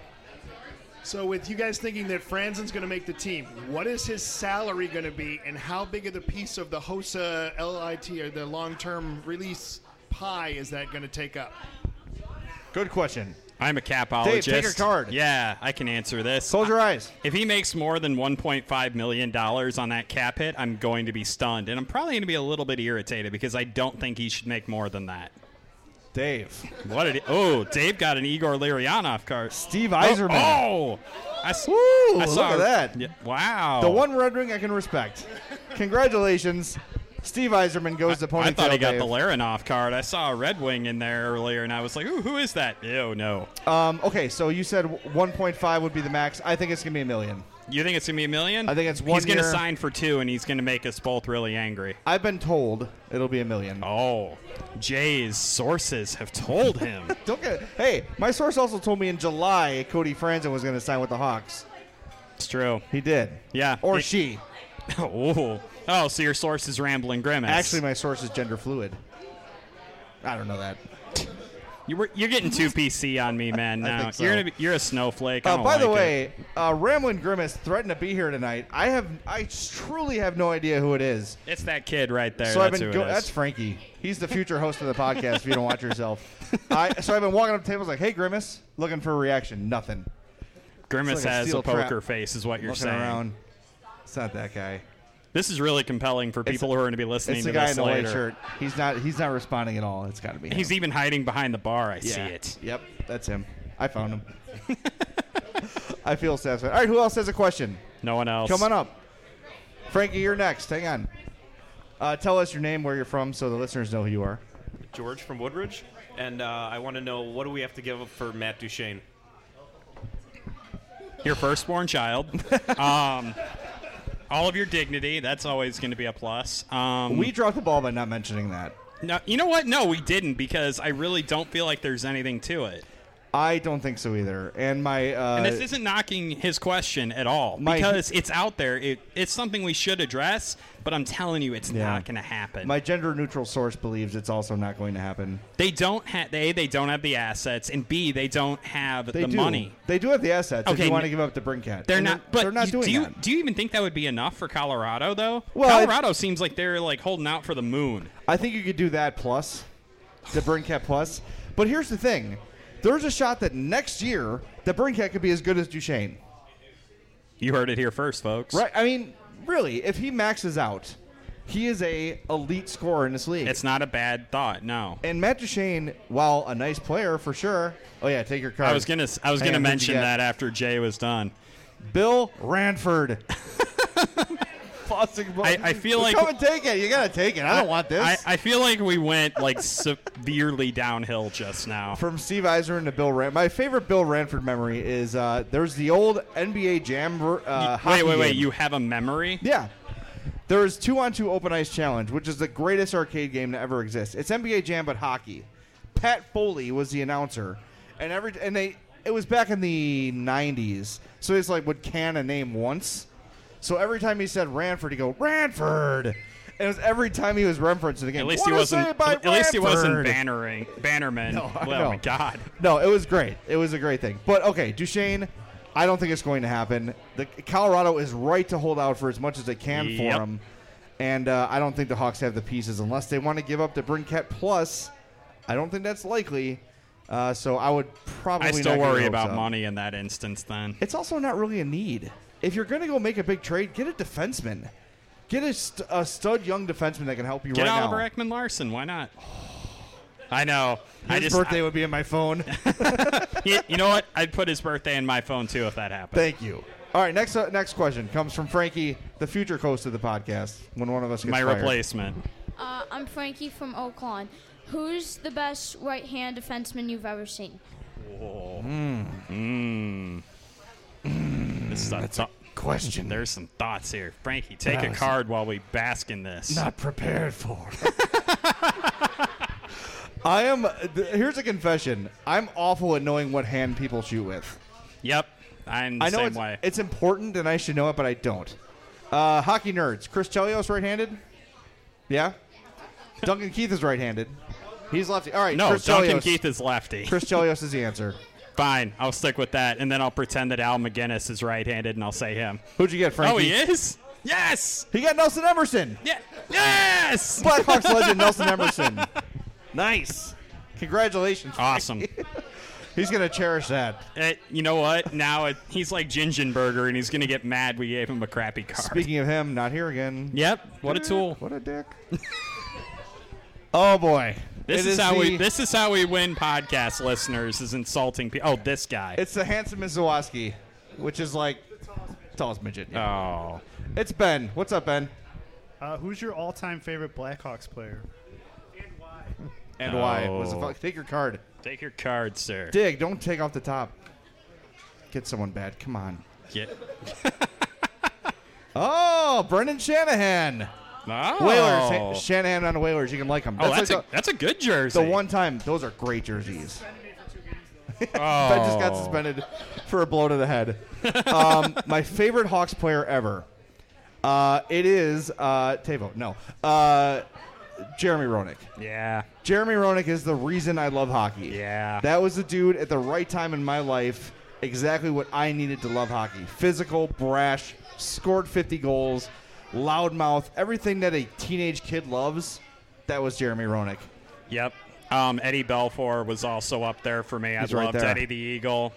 So with you guys thinking that Franzen's going to make the team, what is his salary going to be, and how big of the piece of the HOSA LIT or the long-term release pie is that going to take up? Good question. I'm a capologist. Dave, take your card. Yeah, I can answer this. Close your eyes. If he makes more than $1.5 million on that cap hit, I'm going to be stunned. And I'm probably going to be a little bit irritated because I don't think he should make more than that. Dave. What did Dave got an Igor Larionov card. Steve Yzerman. I saw look at that. Yeah, wow. The one Red Wing I can respect. Congratulations. Steve Yzerman goes to Ponytail I thought he got Dave. the Larionov card. I saw a Red Wing in there earlier, and I was like, ooh, who is that? Ew, no. Okay, so you said 1.5 would be the max. I think it's going to be $1 million. You think it's going to be $1 million? I think it's 1 He's going to year. sign for 2, and he's going to make us both really angry. I've been told it'll be $1 million. Oh, Jay's sources have told him. Don't get it. Hey, my source also told me in July Cody Franzen was going to sign with the Hawks. It's true. He did. Yeah. Or she. Oh, so your source is Rambling Grimace. Actually, my source is gender fluid. I don't know that. You're getting too PC on me, man. Now think so. You're a snowflake. I don't By the like way, Ramblin' Grimace threatened to be here tonight. I truly have no idea who it is. It's that kid right there. So That's who it is. That's Frankie. He's the future host of the podcast. If you don't watch yourself, so I've been walking up to tables like, "Hey, Grimace," looking for a reaction. Nothing. Grimace It's like a has steel a poker trap. face, is what you're Looking saying. around. It's not that guy. This is really compelling for people who are going to be listening It's to the guy this in the later. white shirt. He's not responding at all. It's got to be him. He's even hiding behind the bar. I see Yeah. it. Yep, that's him. I found him. I feel satisfied. All right, who else has a question? No one else. Come on up. Frankie, you're next. Hang on. Tell us your name, where you're from, so the listeners know who you are. George from Woodridge, and I want to know, what do we have to give up for Matt Duchene? Your firstborn child. All of your dignity. That's always going to be a plus. We dropped the ball by not mentioning that. No, you know what? No, we didn't, because I really don't feel like there's anything to it. I don't think so either. And my And this isn't knocking his question at all, because it's out there. It's something we should address, but I'm telling you, it's not going to happen. my gender-neutral source believes it's also not going to happen. They don't have they don't have the assets, and B, they don't have the money. They do have the assets. Okay, if you want to give up the Brincat, They're And not. But they're not doing that. Do you even think that would be enough for Colorado, though? Well, Colorado seems like they're like holding out for the moon. I think you could do that plus the Brincat plus. But here's the thing: there's a shot that next year the Brincat could be as good as Duchene. You heard it here first, folks. Right? I mean, really, if he maxes out, he is a elite scorer in this league. It's not a bad thought, no. And Matt Duchene, while a nice player for sure. Oh yeah, take your card. I was gonna mention that after Jay was done. Bill Ranford. I feel like come and take it. You gotta take it. I don't want this. I feel like we went like severely downhill just now. From Steve Eisner to Bill Ranford. My favorite Bill Ranford memory is there's the old NBA Jam. Hockey wait. game. You have a memory? Yeah. There is 2-on-2 Open Ice Challenge, which is the greatest arcade game to ever exist. It's NBA Jam but hockey. Pat Foley was the announcer, and it was back in the 90s, so it's like would can a name once. So every time he said Ranford, he'd go Ranford. And it was every time he was referencing the game. At least he wasn't Bannerman. No, oh my God. No, it was great. It was a great thing. But okay, Duchene, I don't think it's going to happen. Colorado is right to hold out for as much as they can for him. And I don't think the Hawks have the pieces unless they want to give up the Brinket Plus. I don't think that's likely. So I would probably I still not worry get about money in that instance then. It's also not really a need. If you're going to go make a big trade, get a defenseman. Get a stud young defenseman that can help you Get right now. Oliver Ekman-Larsson. Why not? I know. His birthday would be in my phone. You know what? I'd put his birthday in my phone, too, if that happened. Thank you. All right, next question comes from Frankie, the future host of the podcast, when one of us gets my fired. Replacement. I'm Frankie from Oak Lawn. Who's the best right-hand defenseman you've ever seen? That's a question. There's some thoughts here. Frankie, take a card while we bask in this. Not prepared for. Here's a confession. I'm awful at knowing what hand people shoot with. Yep. I'm the same way. It's important and I should know it, but I don't. Hockey nerds. Chris Chelios right-handed? Yeah? Duncan Keith is right-handed. He's lefty. All right, no, Chris Duncan Chelios. Keith is lefty. Chris Chelios is the answer. Fine, I'll stick with that, and then I'll pretend that Al McGinnis is right-handed, and I'll say him. Who'd you get, Frankie? Oh, he is? Yes! He got Nelson Emerson. Yeah. Yes! Blackhawks legend Nelson Emerson. Nice. Congratulations, Frankie. Awesome. He's going to cherish that. You know what? Now he's like Gingenberger, and he's going to get mad we gave him a crappy card. Speaking of him, not here again. Yep. What a tool. What a dick. Oh, boy. This is how we win podcast listeners, is insulting people. Oh, this guy. It's the handsome Zawoski, which is like tallest midget. Yeah. Oh. It's Ben. What's up, Ben? Who's your all-time favorite Blackhawks player? And why? Take your card. Take your card, sir. Dig. Don't take off the top. Get someone bad. Come on. Oh, Brendan Shanahan. Oh. Whalers. Shanahan on the Whalers. You can like him. That's a good jersey. The one time. Those are great jerseys. Oh. Ben just got suspended for a blow to the head. My favorite Hawks player ever. It is Tavo. No. Jeremy Roenick. Yeah. Jeremy Roenick is the reason I love hockey. Yeah. That was the dude at the right time in my life. Exactly what I needed to love hockey. Physical, brash, scored 50 goals, loudmouth, everything that a teenage kid loves. That was Jeremy Roenick. Yep. Eddie Belfour was also up there for me. I loved Eddie the Eagle.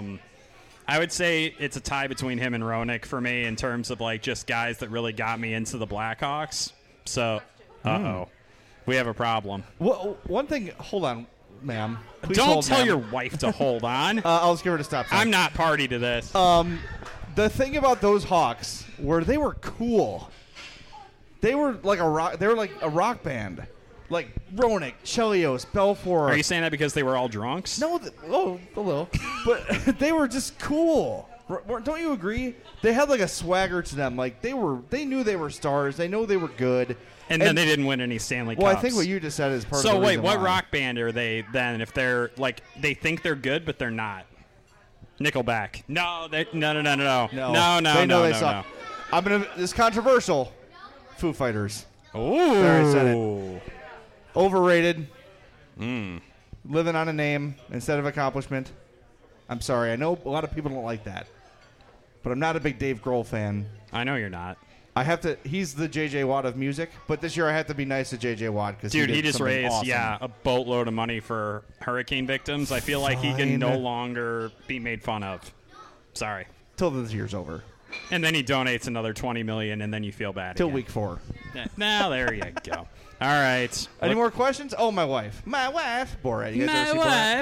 I would say it's a tie between him and Roenick for me in terms of like just guys that really got me into the Blackhawks. So, we have a problem. Well, one thing, hold on, ma'am. Please Don't tell your wife to hold on. I'll just give her a stop sign. I'm not party to this. The thing about those Hawks were they were cool. They were like a rock. They were like a rock band, like Roenick, Chelios, Belfour. Are you saying that because they were all drunks? No, a little, but they were just cool. Don't you agree? They had like a swagger to them. Like they knew they were stars. They know they were good. And then they didn't win any Stanley Cups. Well, I think what you just said is part of the reason. So wait, what why. rock band are they then? If they're like they think they're good, but they're not. Nickelback. No. They know they suck. This is controversial. Foo Fighters. Ooh. There, I said it. Overrated. Living on a name instead of accomplishment. I'm sorry. I know a lot of people don't like that. But I'm not a big Dave Grohl fan. I know you're not. He's the J.J. Watt of music, but this year I have to be nice to J.J. Watt because he just raised awesome. a boatload of money for hurricane victims. I feel like he can no longer be made fun of. Sorry. Till this year's over. And then he donates another $20 million, and then you feel bad Till again. week 4. Now there you go. All right. Any more questions? Oh, my wife. My wife. Borat. You guys ever see Borat?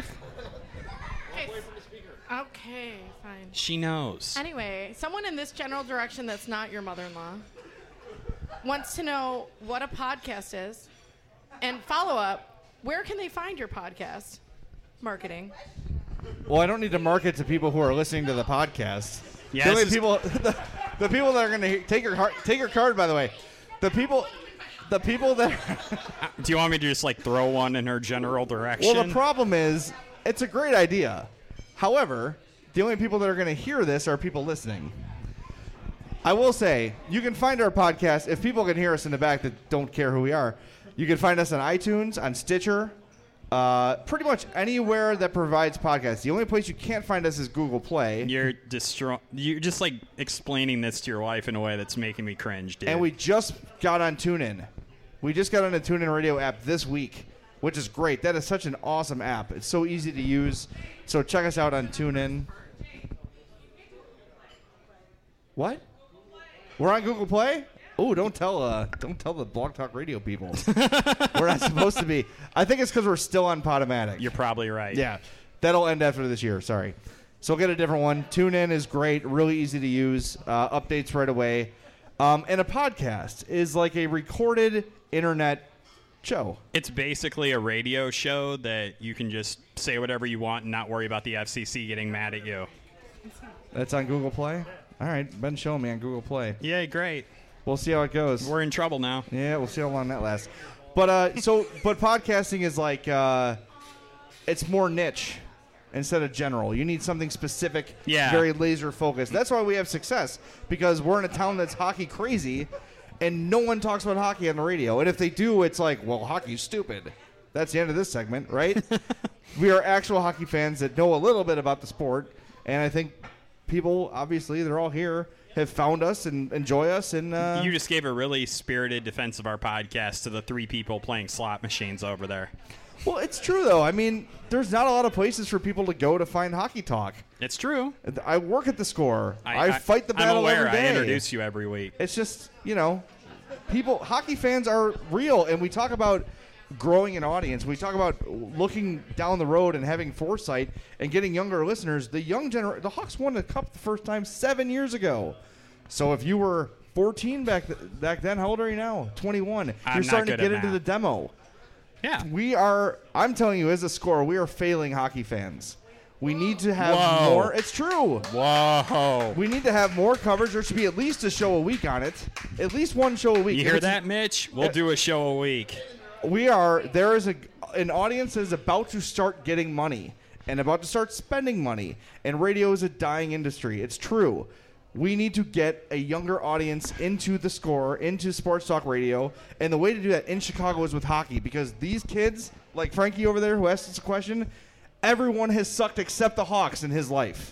Okay, fine. She knows. Anyway, someone in this general direction that's not your mother-in-law wants to know what a podcast is, and follow-up, where can they find your podcast? Marketing. Well, I don't need to market to people who are listening to the podcast. Yeah, The only people, the people that are going to take your card. By the way, the people that. Do you want me to just like throw one in her general direction? Well, the problem is, it's a great idea. However, the only people that are going to hear this are people listening. I will say, you can find our podcast, if people can hear us in the back that don't care who we are, you can find us on iTunes, on Stitcher, pretty much anywhere that provides podcasts. The only place you can't find us is Google Play. You're just like explaining this to your wife in a way that's making me cringe, dude. And we just got on TuneIn. We just got on the TuneIn Radio app this week, which is great. That is such an awesome app. It's so easy to use. So check us out on TuneIn. What? We're on Google Play? Oh, don't tell the Blog Talk Radio people. We're not supposed to be. I think it's because we're still on Podomatic. You're probably right. Yeah. That'll end after this year. Sorry. So we'll get a different one. TuneIn is great. Really easy to use. Updates right away. And a podcast is like a recorded internet show. It's basically a radio show that you can just say whatever you want and not worry about the FCC getting mad at you. That's on Google Play? All right. Ben's showing me on Google Play. Yeah, great. We'll see how it goes. We're in trouble now. Yeah, we'll see how long that lasts. But but podcasting is like it's more niche instead of general. You need something specific, very laser focused. That's why we have success, because we're in a town that's hockey crazy, and no one talks about hockey on the radio. And if they do, it's like, well, hockey's stupid. That's the end of this segment, right? We are actual hockey fans that know a little bit about the sport, and I think people, obviously, they're all here, have found us and enjoy us. And you just gave a really spirited defense of our podcast to the 3 people playing slot machines over there. Well, it's true, though. I mean, there's not a lot of places for people to go to find hockey talk. It's true. I work at the Score. I fight the battle I'm aware. every day. I introduce you every week. It's just, hockey fans are real, and we talk about growing an audience. We talk about looking down the road and having foresight and getting younger listeners. The Hawks won the Cup the first time 7 years ago. So if you were 14 back then, how old are you now? 21. You're starting to get into the demo. Yeah. I'm telling you, as a Score, we are failing hockey fans. We need to have more. It's true. Whoa. We need to have more coverage. There should be at least a show a week on it. At least one show a week. You hear that, Mitch? We'll do a show a week. There is an audience that is about to start getting money and about to start spending money. And radio is a dying industry. It's true. We need to get a younger audience into the Score, into sports talk radio. And the way to do that in Chicago is with hockey, because these kids, like Frankie over there who asked us a question, everyone has sucked except the Hawks in his life.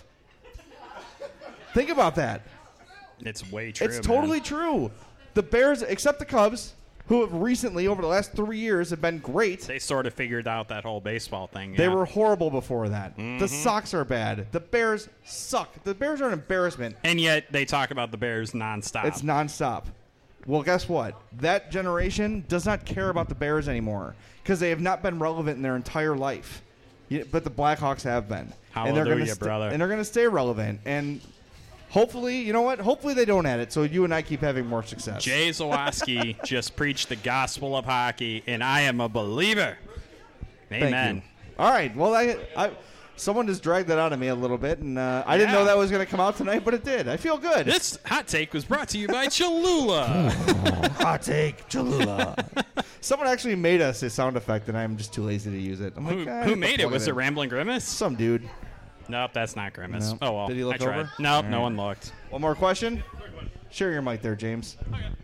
Think about that. It's way true. It's totally true. The Bears, except the Cubs, who have recently, over the last 3 years, have been great. They sort of figured out that whole baseball thing. They were horrible before that. Mm-hmm. The Sox are bad. The Bears suck. The Bears are an embarrassment. And yet they talk about the Bears nonstop. It's nonstop. Well, guess what? That generation does not care about the Bears anymore because they have not been relevant in their entire life. But the Blackhawks have been. Hallelujah, brother. And they're going to stay relevant. And hopefully, you know what? Hopefully they don't add it so you and I keep having more success. Jay Zawaski just preached the gospel of hockey, and I am a believer. Amen. Thank you. All right. Well, someone just dragged that out of me a little bit, and I didn't know that was going to come out tonight, but it did. I feel good. This hot take was brought to you by Cholula. Hot take, Cholula. Someone actually made us a sound effect, and I'm just too lazy to use it. I'm who made it? Was it Rambling Grimace? Some dude. Nope, that's not Grimace. Nope. Oh, well. Did he look I tried. over? Nope, no one looked. One more question? Share your mic there, James.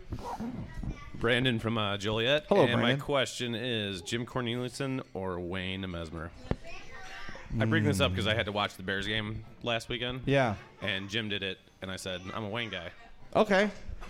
Brandon from Joliet. Hello, and Brandon. My question is Jim Corneliuson or Wayne Mesmer? I bring this up because I had to watch the Bears game last weekend. Yeah. And Jim did it, and I said, I'm a Wayne guy. Okay.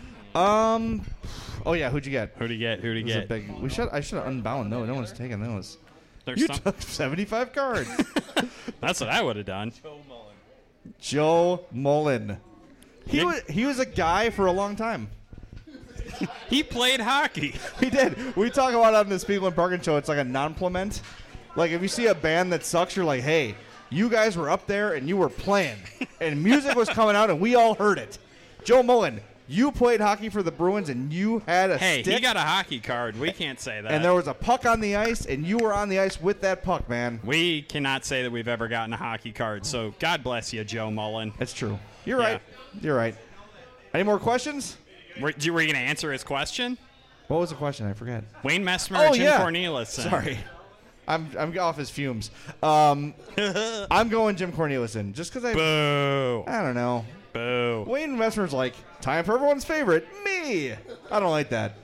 Oh, yeah, who'd you get? Who'd he get? I should have unbound. No one's taken those. You took 75 cards. That's what I would have done. Joe Mullen. He was a guy for a long time. He played hockey. He did. We talk about it on the Spiegel and Parkin show. It's like a non-plament. Like, if you see a band that sucks, you're like, hey, you guys were up there and you were playing. And music was coming out and we all heard it. Joe Mullen, you played hockey for the Bruins and you had a stick. Hey, he got a hockey card. We can't say that. And there was a puck on the ice and you were on the ice with that puck, man. We cannot say that we've ever gotten a hockey card. So God bless you, Joe Mullen. That's true. You're right. You're right. Any more questions? Were you going to answer his question? What was the question? I forget. Wayne Messmer or Jim Corneliuson? Sorry. I'm off his fumes. I'm going Jim Corneliuson just because Boo. I don't know. Boo. Wayne Messmer's like, time for everyone's favorite, me. I don't like that.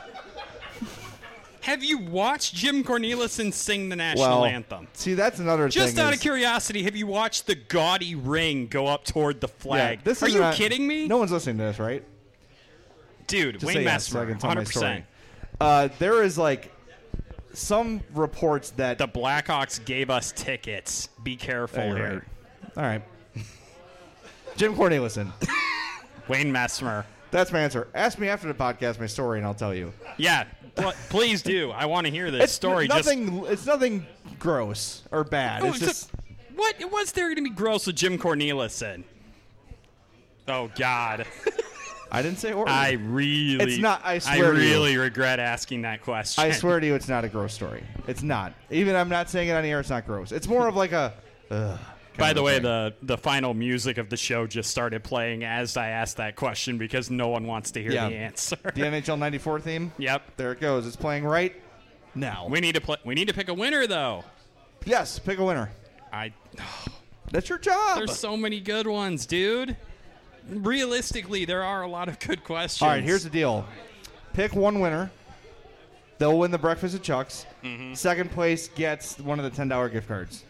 Have you watched Jim Corneliuson sing the national anthem? See, that's another thing. Just out of curiosity, have you watched the gaudy ring go up toward the flag? Yeah, Are you kidding me? No one's listening to this, right? Dude, Just Wayne yes, so I Messmer, can tell my 100%. story. There is like some reports that the Blackhawks gave us tickets. Be careful here. Right. All right. Jim Corneliuson. Wayne Messmer. That's my answer. Ask me after the podcast my story, and I'll tell you. Yeah, please do. I want to hear this story. It's nothing gross or bad. It's just what was there going to be gross with Jim Corneliuson? Oh God. I didn't say horrible. It's not. I swear. I really regret asking that question. I swear to you, it's not a gross story. It's not. Even I'm not saying it on the air. It's not gross. It's more of like a. By the way, the final music of the show just started playing as I asked that question because no one wants to hear the answer. The NHL '94 theme. Yep. There it goes. It's playing right now. We need to pick a winner though. Yes, pick a winner. That's your job. There's so many good ones, dude. Realistically, there are a lot of good questions. All right, here's the deal. Pick one winner. They'll win the breakfast at Chuck's. Mm-hmm. Second place gets one of the $10 gift cards.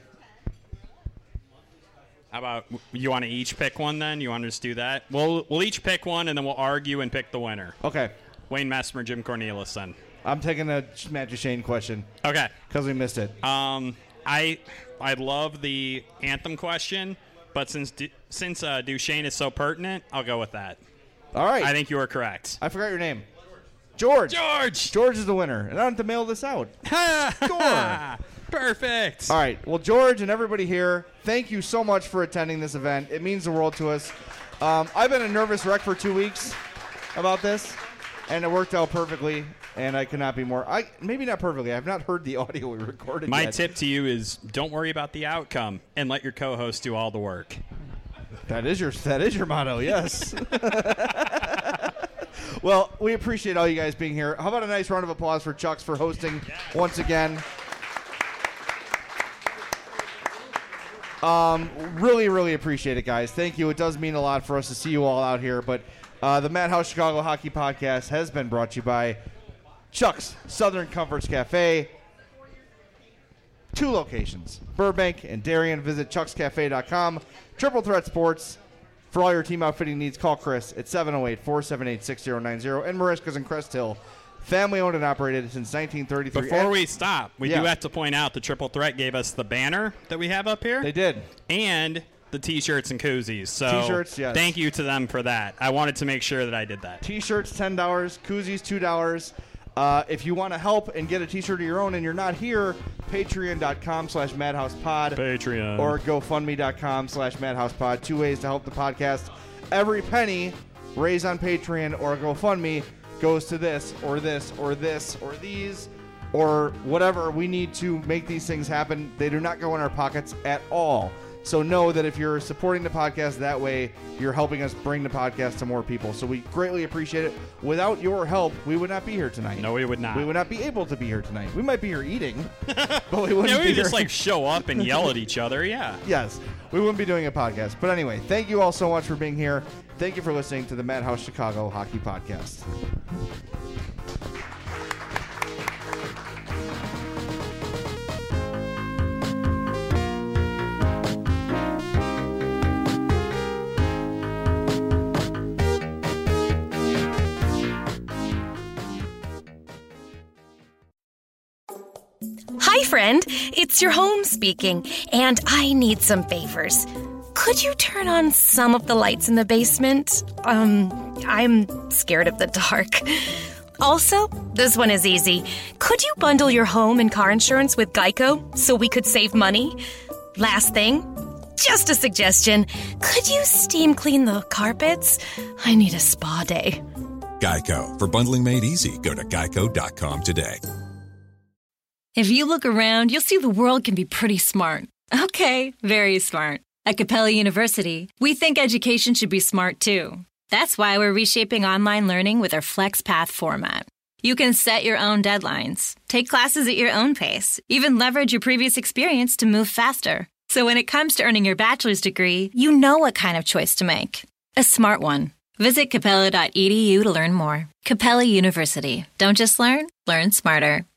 How about you want to each pick one then? You want to just do that? We'll each pick one, and then we'll argue and pick the winner. Okay. Wayne Messmer, Jim Corneliuson. I'm taking a Matt Duchene question. Okay. Because we missed it. I love the anthem question, but since Duchene is so pertinent, I'll go with that. All right. I think you are correct. I forgot your name. George. George is the winner. And I don't have to mail this out. Score. Perfect. All right. Well, George and everybody here, thank you so much for attending this event. It means the world to us. I've been a nervous wreck for 2 weeks about this, and it worked out perfectly, and I could not be more. Maybe not perfectly. I've not heard the audio we recorded My yet. tip to you is don't worry about the outcome and let your co-host do all the work. That is your motto, yes. Well, we appreciate all you guys being here. How about a nice round of applause for Chuck's for hosting once again. Really, really appreciate it, guys. Thank you. It does mean a lot for us to see you all out here. But the Madhouse Chicago Hockey Podcast has been brought to you by Chuck's Southern Comforts Cafe. 2 locations, Burbank and Darien. Visit chuckscafe.com. Triple Threat Sports. For all your team outfitting needs, call Chris at 708-478-6090. And Mariska's in Crest Hill. Family owned and operated since 1933. Before we stop, we do have to point out the Triple Threat gave us the banner that we have up here. They did. And the T-shirts and koozies. So T-shirts, yes. Thank you to them for that. I wanted to make sure that I did that. T-shirts, $10. Koozies, $2. If you want to help and get a T-shirt of your own and you're not here, patreon.com/madhousepod. Patreon. Or gofundme.com/madhousepod. 2 ways to help the podcast. Every penny raised on Patreon or GoFundMe goes to this or this or this or these or whatever we need to make these things happen. They do not go in our pockets at all. So know that if you're supporting the podcast that way, you're helping us bring the podcast to more people. So we greatly appreciate it. Without your help, we would not be here tonight. No, we would not. We would not be able to be here tonight. We might be here eating, but we wouldn't we be just here. show up and yell at each other. Yeah. Yes, we wouldn't be doing a podcast. But anyway, thank you all so much for being here. Thank you for listening to the Madhouse Chicago Hockey Podcast. Hi, friend. It's your home speaking, and I need some favors. Could you turn on some of the lights in the basement? I'm scared of the dark. Also, this one is easy. Could you bundle your home and car insurance with Geico so we could save money? Last thing, just a suggestion. Could you steam clean the carpets? I need a spa day. Geico. For bundling made easy, go to geico.com today. If you look around, you'll see the world can be pretty smart. Okay, very smart. At Capella University, we think education should be smart too. That's why we're reshaping online learning with our FlexPath format. You can set your own deadlines, take classes at your own pace, even leverage your previous experience to move faster. So when it comes to earning your bachelor's degree, you know what kind of choice to make. A smart one. Visit capella.edu to learn more. Capella University. Don't just learn, learn smarter.